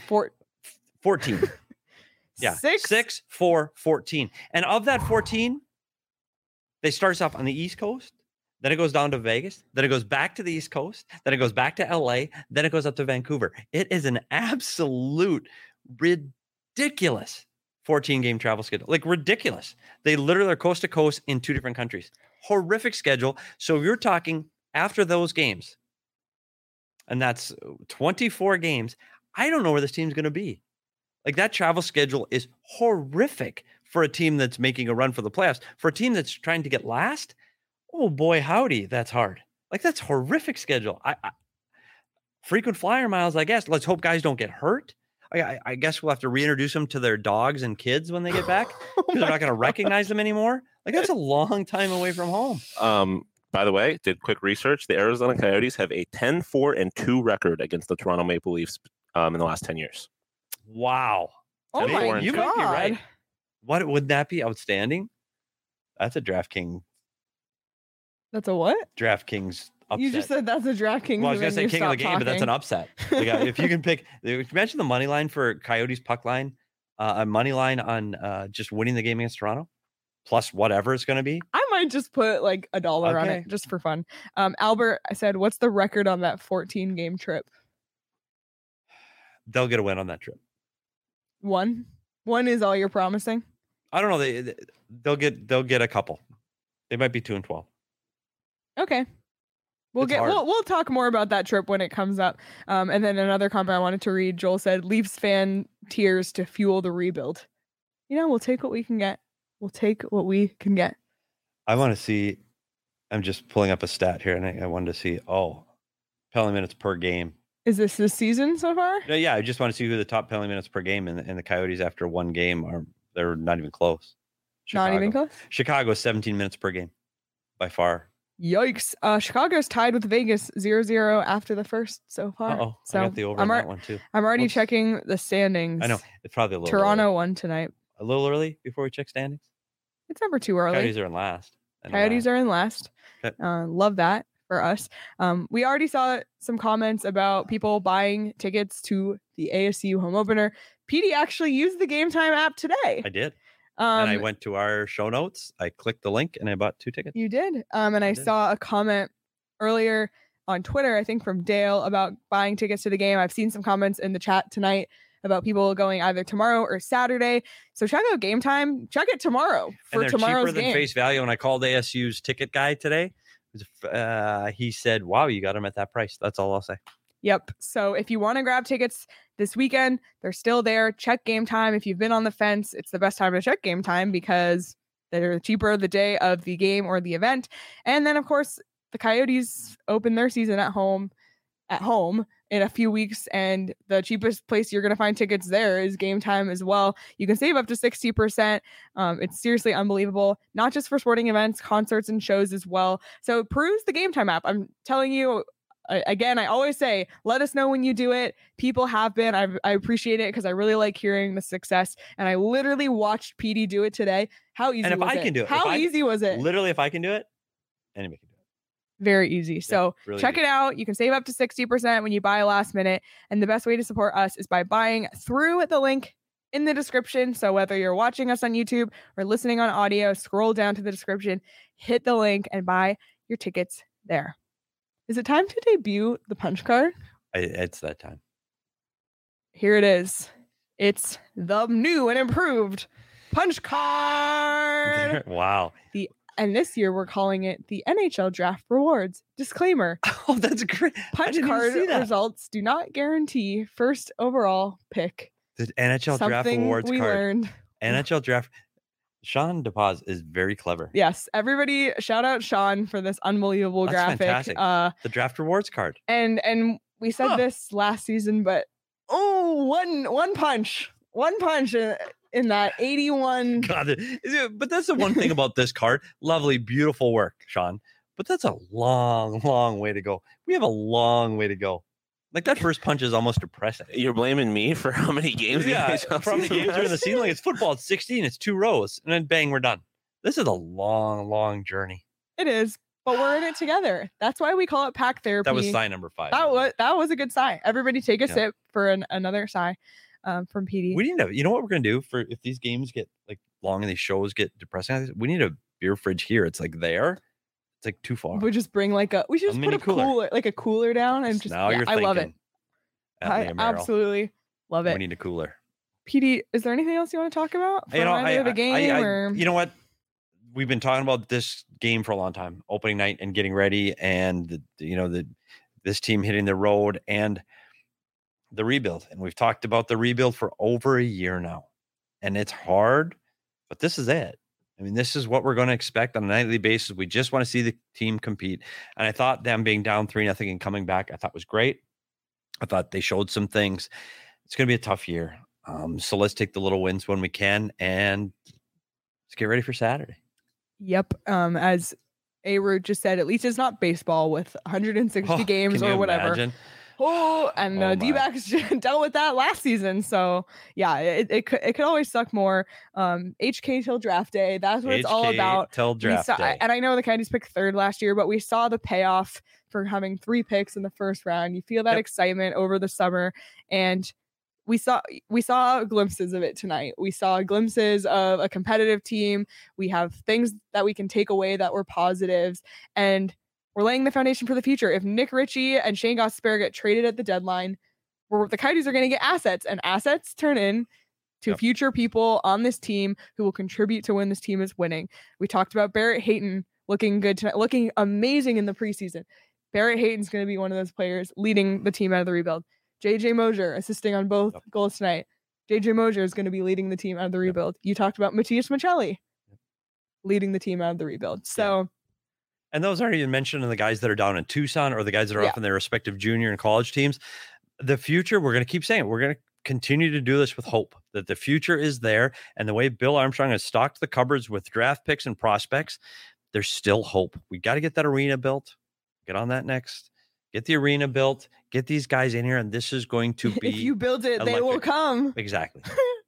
14. Yeah. 6, 4, 14. And of that 14, they start off on the East Coast. Then it goes down to Vegas. Then it goes back to the East Coast. Then it goes back to LA. Then it goes up to Vancouver. It is an absolute ridiculous 14-game travel schedule. Like ridiculous. They literally are coast to coast in 2 different countries. Horrific schedule. So if you're talking after those games, and that's 24 games, I don't know where this team's going to be. Like that travel schedule is horrific for a team that's making a run for the playoffs. For a team that's trying to get last, oh boy, howdy, that's hard. Like that's horrific schedule. I frequent flyer miles, I guess. Let's hope guys don't get hurt. I guess we'll have to reintroduce them to their dogs and kids when they get back because they're not going to recognize them anymore. Like that's a long time away from home. By the way, did quick research. The Arizona Coyotes have a 10-4-2 record against the Toronto Maple Leafs in the last 10 years. Wow. Oh my God. You might be right. What would that be? Outstanding. That's a DraftKings. That's a what? DraftKings upset. You just said that's a DraftKings. Well, I was going to say king of the game, but that's an upset. Like, if you can pick, imagine the money line for Coyotes puck line, a money line on just winning the game against Toronto, plus whatever it's going to be. I might just put like $1 on it just for fun. Albert, I said, what's the record on that 14-game trip? They'll get a win on that trip. One is all you're promising. I don't know. They'll get a couple. They might be 2-12. Okay. We'll talk more about that trip when it comes up. And then another comment I wanted to read. Joel said, Leafs fan tears to fuel the rebuild. We'll take what we can get. I want to see, I'm just pulling up a stat here, and I wanted to see, penalty minutes per game. Is this season so far? Yeah, I just want to see who the top penalty minutes per game in the Coyotes after one game are. They're not even close. Not even close? Chicago is 17 minutes per game by far. Yikes. Chicago's tied with Vegas 0-0 after the first so far. So I got the over on that one too. I'm already checking the standings. I know. It's probably a little Toronto won tonight. A little early before we check standings? It's never too early. Coyotes are in last. Are in last. Okay. Love that for us. We already saw some comments about people buying tickets to the ASU home opener. PD actually used the Game Time app today. I did. And I went to our show notes. I clicked the link and I bought 2 tickets. You did. And I saw a comment earlier on Twitter, I think from Dale, about buying tickets to the game. I've seen some comments in the chat tonight about people going either tomorrow or Saturday. So check out Game Time. Check it tomorrow for tomorrow's cheaper game. Than face value. When I called ASU's ticket guy today, he said, wow, you got them at that price. That's all I'll say. Yep. So if you want to grab tickets this weekend, they're still there. Check Game Time. If you've been on the fence, it's the best time to check Game Time because they're cheaper the day of the game or the event. And then, of course, the Coyotes open their season at home in a few weeks. And the cheapest place you're going to find tickets there is Game Time as well. You can save up to 60%. It's seriously unbelievable, not just for sporting events, concerts and shows as well. So peruse the Game Time app. I'm telling you, again, I always say, let us know when you do it. People have been. I appreciate it because I really like hearing the success. And I literally watched PD do it today. How easy was it? And if I can do it. How easy was it? Literally, if I can do it, anybody can do it. Very easy. So really check it out. You can save up to 60% when you buy last minute. And the best way to support us is by buying through the link in the description. So whether you're watching us on YouTube or listening on audio, scroll down to the description, hit the link, and buy your tickets there. Is it time to debut the punch card? It's that time. Here it is. It's the new and improved punch card. Wow. The And this year we're calling it the NHL Draft Rewards. Disclaimer. Oh, that's great. Punch card results do not guarantee first overall pick. The NHL Draft Rewards we card. Learned. NHL Draft. Sean DePaz is very clever. Yes. Everybody shout out Sean for this unbelievable graphic. Fantastic. The Draft Rewards card. And we said this last season, but one punch in that 81. God, but that's the one thing about this card. Lovely, beautiful work, Sean. But that's a long, long way to go. We have a long way to go. Like that first punch is almost depressing. You're blaming me for how many games? Yeah, from the games during the season. Like it's football. It's 16. It's 2 rows, and then bang, we're done. This is a long, long journey. It is, but we're in it together. That's why we call it pack therapy. That was sign number 5. That was a good sigh. Everybody take a sip for another sigh from PD. We need to. You know what we're gonna do for if these games get like long and these shows get depressing? We need a beer fridge here. It's like there. It's like too far. We just bring we should just put a cooler, like a cooler down, and just. Now you're thinking. I love it. I absolutely love it. We need a cooler. PD, is there anything else you want to talk about? For the game, you know what? We've been talking about this game for a long time, opening night and getting ready, and this team hitting the road and the rebuild. And we've talked about the rebuild for over a year now, and it's hard, but this is it. I mean, this is what we're going to expect on a nightly basis. We just want to see the team compete. And I thought them being down 3-0 and coming back, I thought was great. I thought they showed some things. It's going to be a tough year. So let's take the little wins when we can, and let's get ready for Saturday. Yep. As A-Root just said, at least it's not baseball with 160 games or whatever. Imagine? And D-backs dealt with that last season. So yeah, it could always suck more. HK till draft day. That's what it's all about. Till draft day. And I know the Coyotes picked 3rd last year, but we saw the payoff for having 3 picks in the first round. You feel that excitement over the summer, and we saw glimpses of it tonight. We saw glimpses of a competitive team. We have things that we can take away that were positives, and we're laying the foundation for the future. If Nick Ritchie and Shane Gostisbehere get traded at the deadline, the Coyotes are going to get assets, and assets turn in to future people on this team who will contribute to when this team is winning. We talked about Barrett Hayton looking good tonight, looking amazing in the preseason. Barrett Hayton's going to be one of those players leading the team out of the rebuild. JJ Mosier assisting on both goals tonight. JJ Mosier is going to be leading the team out of the rebuild. You talked about Matias Maccelli leading the team out of the rebuild. So. And those aren't even mentioning the guys that are down in Tucson or the guys that are off in their respective junior and college teams. The future, we're going to keep saying it. We're going to continue to do this with hope that the future is there. And the way Bill Armstrong has stocked the cupboards with draft picks and prospects, there's still hope. We got to get that arena built. Get on that next. Get the arena built. Get these guys in here. And this is going to be. If you build it, they will come. Exactly.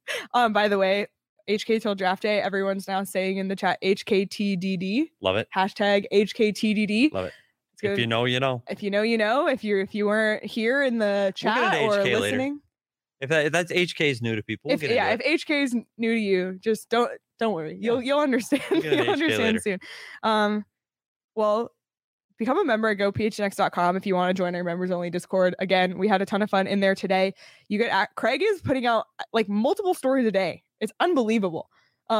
By the way, HK till draft day. Everyone's now saying in the chat HKTDD. Love it. Hashtag HKTDD. Love it. If you know, you know. If you know, you know. If you weren't here in the chat or listening. Later. If that's HK's new to people. If HK's new to you, just don't worry. You'll understand. You'll understand soon. Well, become a member at gophnx.com if you want to join our members only Discord. Again, we had a ton of fun in there today. You get Craig is putting out like multiple stories a day. It's unbelievable.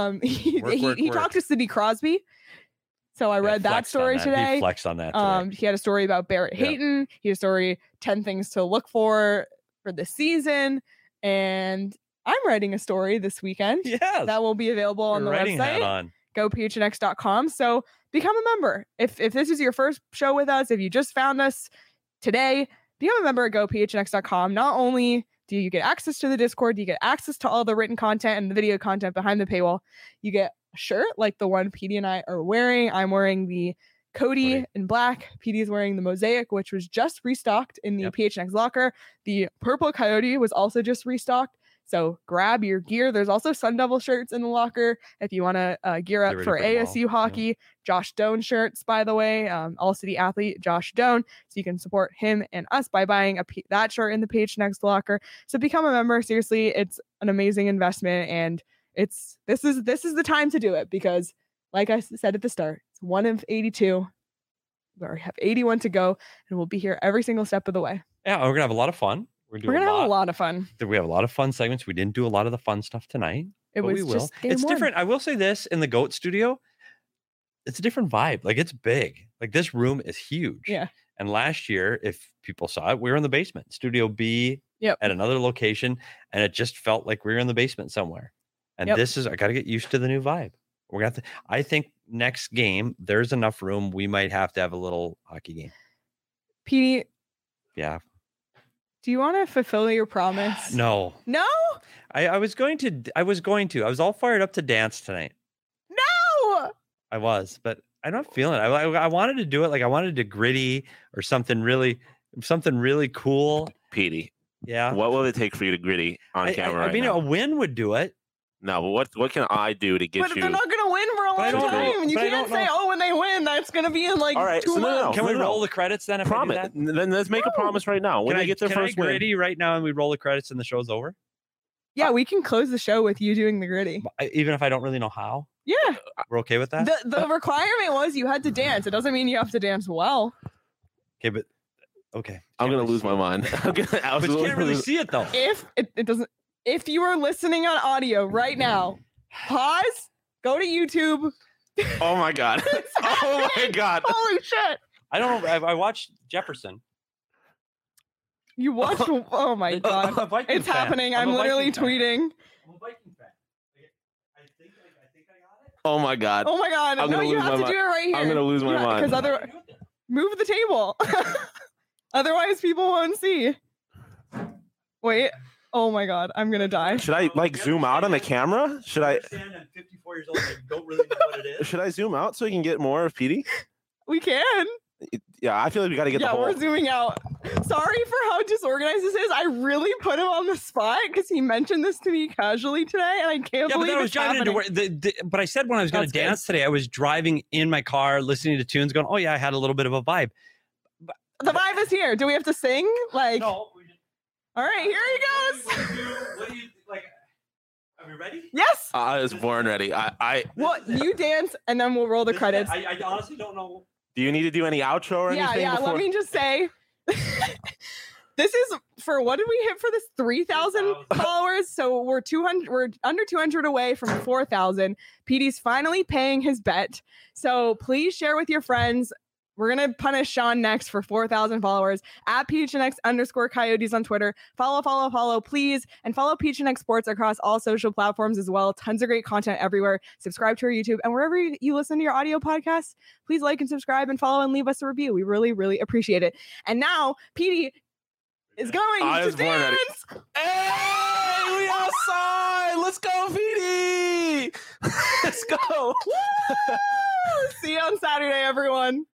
He talked to Sidney Crosby. So I read that story today. He flexed on that today. He had a story about Barrett Hayton. He had a story, 10 things to look for the season. And I'm writing a story this weekend. Yes. That will be available on the website. GoPHNX.com. So become a member. If this is your first show with us, if you just found us today, become a member at GoPHNX.com. Not only do you get access to the Discord, you get access to all the written content and the video content behind the paywall. You get a shirt like the one PD and I are wearing. I'm wearing the Cody in black. PD is wearing the Mosaic, which was just restocked in the PHNX locker. The Purple Coyote was also just restocked. So grab your gear. There's also Sun Devil shirts in the locker if you want to gear up for ASU hockey. Yeah. Josh Doan shirts, by the way, All City athlete Josh Doan. So you can support him and us by buying that shirt in the PHNX locker. So become a member. Seriously, it's an amazing investment, and this is the time to do it because, like I said at the start, it's 1 of 82. We already have 81 to go, and we'll be here every single step of the way. Yeah, we're gonna have a lot of fun. We're gonna have a lot of fun. We have a lot of fun segments. We didn't do a lot of the fun stuff tonight. It's different. I will say this in the GOAT studio. it's a different vibe. Like it's big. Like this room is huge. Yeah. And last year, if people saw it, we were in the basement, Studio B at another location, and it just felt like we were in the basement somewhere. And this is, I got to get used to the new vibe. We're going to have to, I think next game, there's enough room. We might have to have a little hockey game. Petey. Yeah. Do you want to fulfill your promise? No. No? I was going to. I was all fired up to dance tonight. No! I was, but I'm not feeling it. I wanted to do it. Like I wanted to gritty or something really cool. Petey. Yeah. What will it take for you to gritty on camera? I mean, now? a win would do it. No, but what can I do to get you? But they're not going to win for a long time. You can't say, "Oh, when they win, that's going to be in like 2 months." Can we roll the credits then? Promise. Then let's make a promise right now. When they get their first win, gritty right now, and we roll the credits and the show's over. Yeah, we can close the show with you doing the gritty. Even if I don't really know how. Yeah, we're okay with that. The requirement was you had to dance. It doesn't mean you have to dance well. Okay, but okay, I'm gonna lose my mind. I'm gonna absolutely. But you can't really see it though. If it doesn't, if you are listening on audio right now. Pause. Go to YouTube. Oh my god! Oh my god! Holy shit! I don't know. I watched Jefferson. You watched? Oh my god! It's happening. I'm literally tweeting. I'm a Viking fan. I think I got it. Oh my god! Oh my god! No, you have to do it right here. I'm gonna lose my mind. Because otherwise, move the table. Otherwise, people won't see. Wait. Oh my god, I'm gonna die. Should I zoom out on the camera? Should I? I'm 54 years old. I don't really know what it is. Should I zoom out so we can get more of Petey? We can. Yeah, I feel like we got to get the whole. Yeah, we're zooming out. Sorry for how disorganized this is. I really put him on the spot because he mentioned this to me casually today, and I can't believe it's happening. But I said when I was going to dance today, I was driving in my car, listening to tunes, going, "Oh yeah, I had a little bit of a vibe." The vibe is here. Do we have to sing? Like. No. All right, here he goes. What do you like? Are we ready? Yes. I was born ready. Well, you dance, and then we'll roll the credits. I honestly don't know. Do you need to do any outro or anything? Yeah. Let me just say, this is for what did we hit for this? 3,000 followers. So we're 200. We're under 200 away from 4,000. Petey's finally paying his bet. So please share with your friends. We're going to punish Sean next for 4,000 followers at PHNX_Coyotes on Twitter. Follow, please. And follow PHNX Sports across all social platforms as well. Tons of great content everywhere. Subscribe to our YouTube. And wherever you listen to your audio podcasts, please like and subscribe and follow and leave us a review. We really, really appreciate it. And now, Petey is going to dance. Hey, we outside. Let's go, Petey. Let's go. See you on Saturday, everyone.